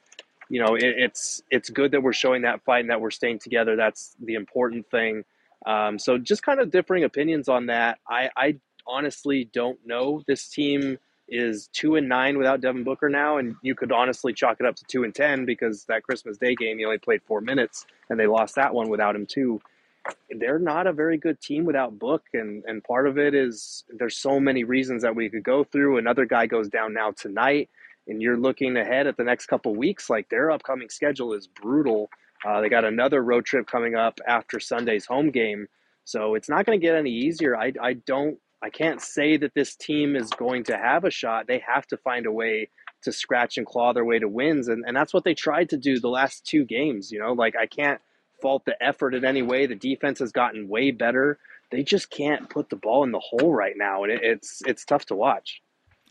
it's good that we're showing that fight and that we're staying together. That's the important thing. So just kind of differing opinions on that. I honestly don't know. This team is 2-9 without Devin Booker now, and you could honestly chalk it up to 2-10 because that Christmas Day game, he only played 4 minutes, and they lost that one without him too. They're not a very good team without Book, and part of it is there's so many reasons that we could go through. Another guy goes down now tonight, and you're looking ahead at the next couple weeks. Like, their upcoming schedule is brutal. They got another road trip coming up after Sunday's home game, so it's not going to get any easier. I can't say that this team is going to have a shot. They have to find a way to scratch and claw their way to wins, and that's what they tried to do the last 2 games. I can't fault the effort in any way. The defense has gotten way better. They just can't put the ball in the hole right now, and it's tough to watch.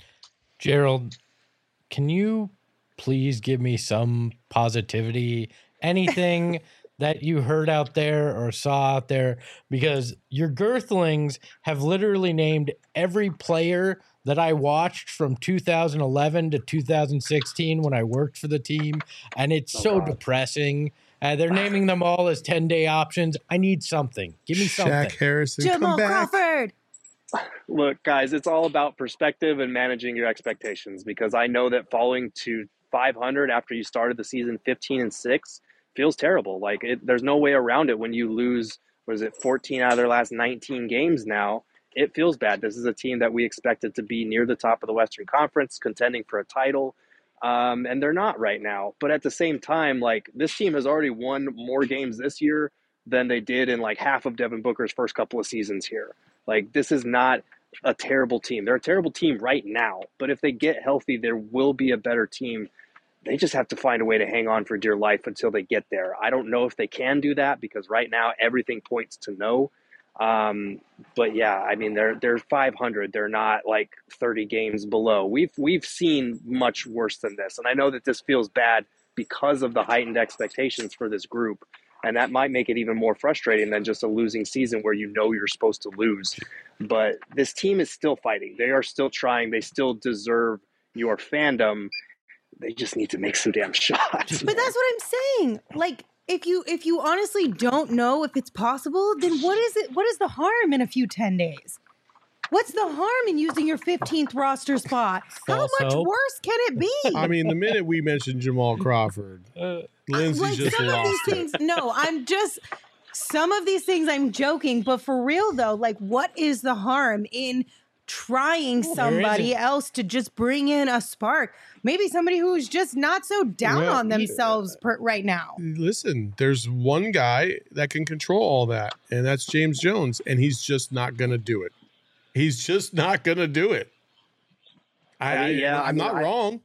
Gerald, can you please give me some positivity, anything that you heard out there or saw out there? Because your Girthlings have literally named every player that I watched from 2011 to 2016 when I worked for the team, and it's depressing. They're naming them all as 10-day options. I need something. Give me something. Shaq Harrison, Jamal come back. Crawford. Look, guys, it's all about perspective and managing your expectations, because I know that falling to 500 after you started the season 15-6 feels terrible. There's no way around it when you lose, 14 out of their last 19 games now. It feels bad. This is a team that we expected to be near the top of the Western Conference, contending for a title. And they're not right now. But at the same time, this team has already won more games this year than they did in half of Devin Booker's first couple of seasons here. This is not a terrible team. They're a terrible team right now. But if they get healthy, there will be a better team. They just have to find a way to hang on for dear life until they get there. I don't know if they can do that, because right now everything points to no. But yeah, I mean, they're 500. They're not 30 games below. We've seen much worse than this. And I know that this feels bad because of the heightened expectations for this group. And that might make it even more frustrating than just a losing season where you're supposed to lose. But this team is still fighting. They are still trying. They still deserve your fandom. They just need to make some damn shots. But that's what I'm saying. If you honestly don't know if it's possible, then what is the harm in a few 10 days? What's the harm in using your 15th roster spot? How much worse can it be? I mean, the minute we mentioned Jamal Crawford, Lindsay just lost it. No, some of these things I'm joking, but for real though, what is the harm in trying somebody else to just bring in a spark. Maybe somebody who's just not so down on themselves right now. Listen, there's one guy that can control all that, and that's James Jones, and he's just not going to do it. He's just not going to do it. I'm not wrong.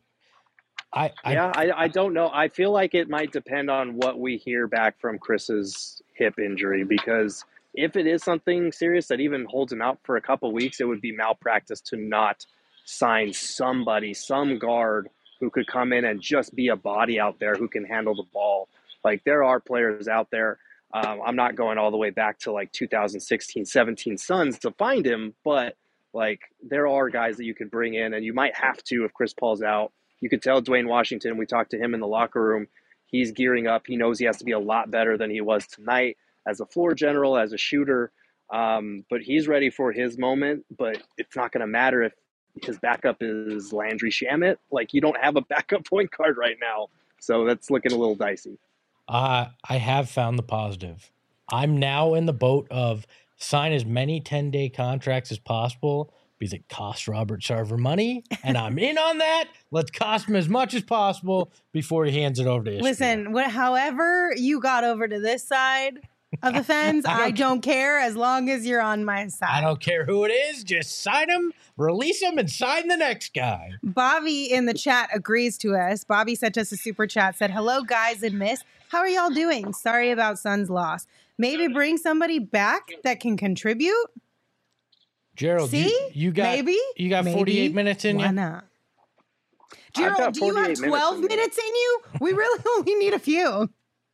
I don't know. I feel like it might depend on what we hear back from Chris's hip injury, because if it is something serious that even holds him out for a couple weeks, it would be malpractice to not sign somebody, some guard who could come in and just be a body out there who can handle the ball. Like, there are players out there. I'm not going all the way back to like 2016, 17 Suns to find him, but like, there are guys that you could bring in, and you might have to if Chris Paul's out. You could tell Dwayne Washington, we talked to him in the locker room, he's gearing up. He knows he has to be a lot better than he was tonight as a floor general, as a shooter. But he's ready for his moment, but it's not going to matter if his backup is Landry Shamet. Like, you don't have a backup point guard right now. So that's looking a little dicey. I have found the positive. I'm now in the boat of sign as many 10-day contracts as possible because it costs Robert Sarver money, and I'm in on that. Let's cost him as much as possible before he hands it over to Ishmael. Listen, however you got over to this side of the fence, I don't care as long as you're on my side. I don't care who it is. Just sign him, release him, and sign the next guy. Bobby in the chat agrees to us. Bobby sent us a super chat, said, hello, guys and miss. How are y'all doing? Sorry about Suns' loss. Maybe bring somebody back that can contribute? Gerald, you got 48 minutes in you? Why not? Gerald, do you have 12 minutes in you? We really only need a few.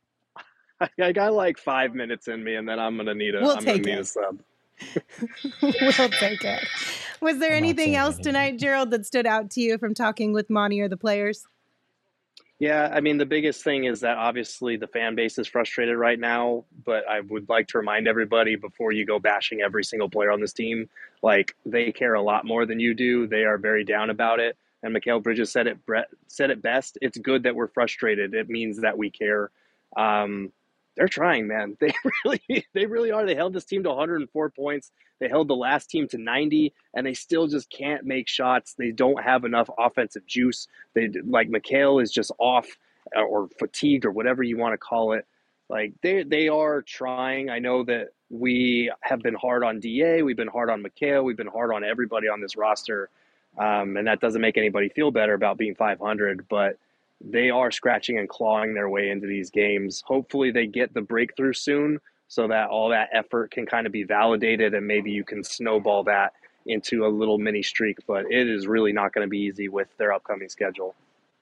I got like 5 minutes in me, and then I'm going to need a sub. We'll take it. Was there anything else tonight, Gerald, that stood out to you from talking with Monty or the players? Yeah, I mean, the biggest thing is that obviously the fan base is frustrated right now, but I would like to remind everybody before you go bashing every single player on this team, like, they care a lot more than you do. They are very down about it. And Mikal Bridges said it best. It's good that we're frustrated. It means that we care. They're trying, man. They really are. They held this team to 104 points. They held the last team to 90, and they still just can't make shots. They don't have enough offensive juice. Mikal is just off or fatigued or whatever you want to call it. Like, they are trying. I know that we have been hard on DA. We've been hard on Mikal. We've been hard on everybody on this roster. And that doesn't make anybody feel better about being 500, but they are scratching and clawing their way into these games. Hopefully they get the breakthrough soon so that all that effort can kind of be validated, and maybe you can snowball that into a little mini streak. But it is really not going to be easy with their upcoming schedule.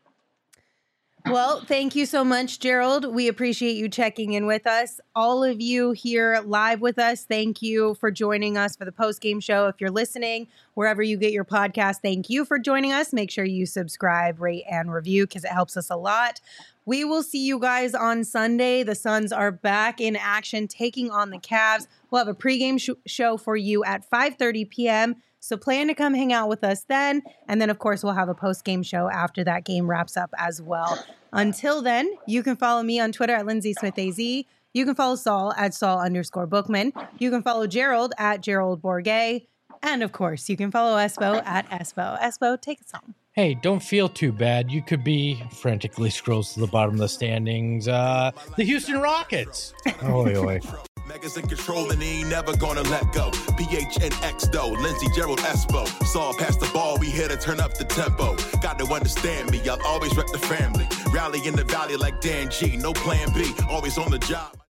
Well, thank you so much, Gerald. We appreciate you checking in with us. All of you here live with us, thank you for joining us for the post-game show. If you're listening, wherever you get your podcast, thank you for joining us. Make sure you subscribe, rate, and review because it helps us a lot. We will see you guys on Sunday. The Suns are back in action, taking on the Cavs. We'll have a pregame show for you at 5:30 p.m., so plan to come hang out with us then. And then, of course, we'll have a post-game show after that game wraps up as well. Until then, you can follow me on Twitter at Lindsay Smith AZ. You can follow Saul at Saul_Bookman. You can follow Gerald at Gerald Bourget. And, of course, you can follow Espo at Espo. Espo, take us home. Hey, don't feel too bad. You could be frantically scrolls to the bottom of the standings. The Houston Rockets. Oi, oi. Megas in control and he ain't never gonna let go. PHNX though, Lindsey, Gerald, Espo. Saw past the ball, we here to turn up the tempo. Got to understand me, I'll always rep the family. Rally in the valley like Dan G, no plan B, always on the job.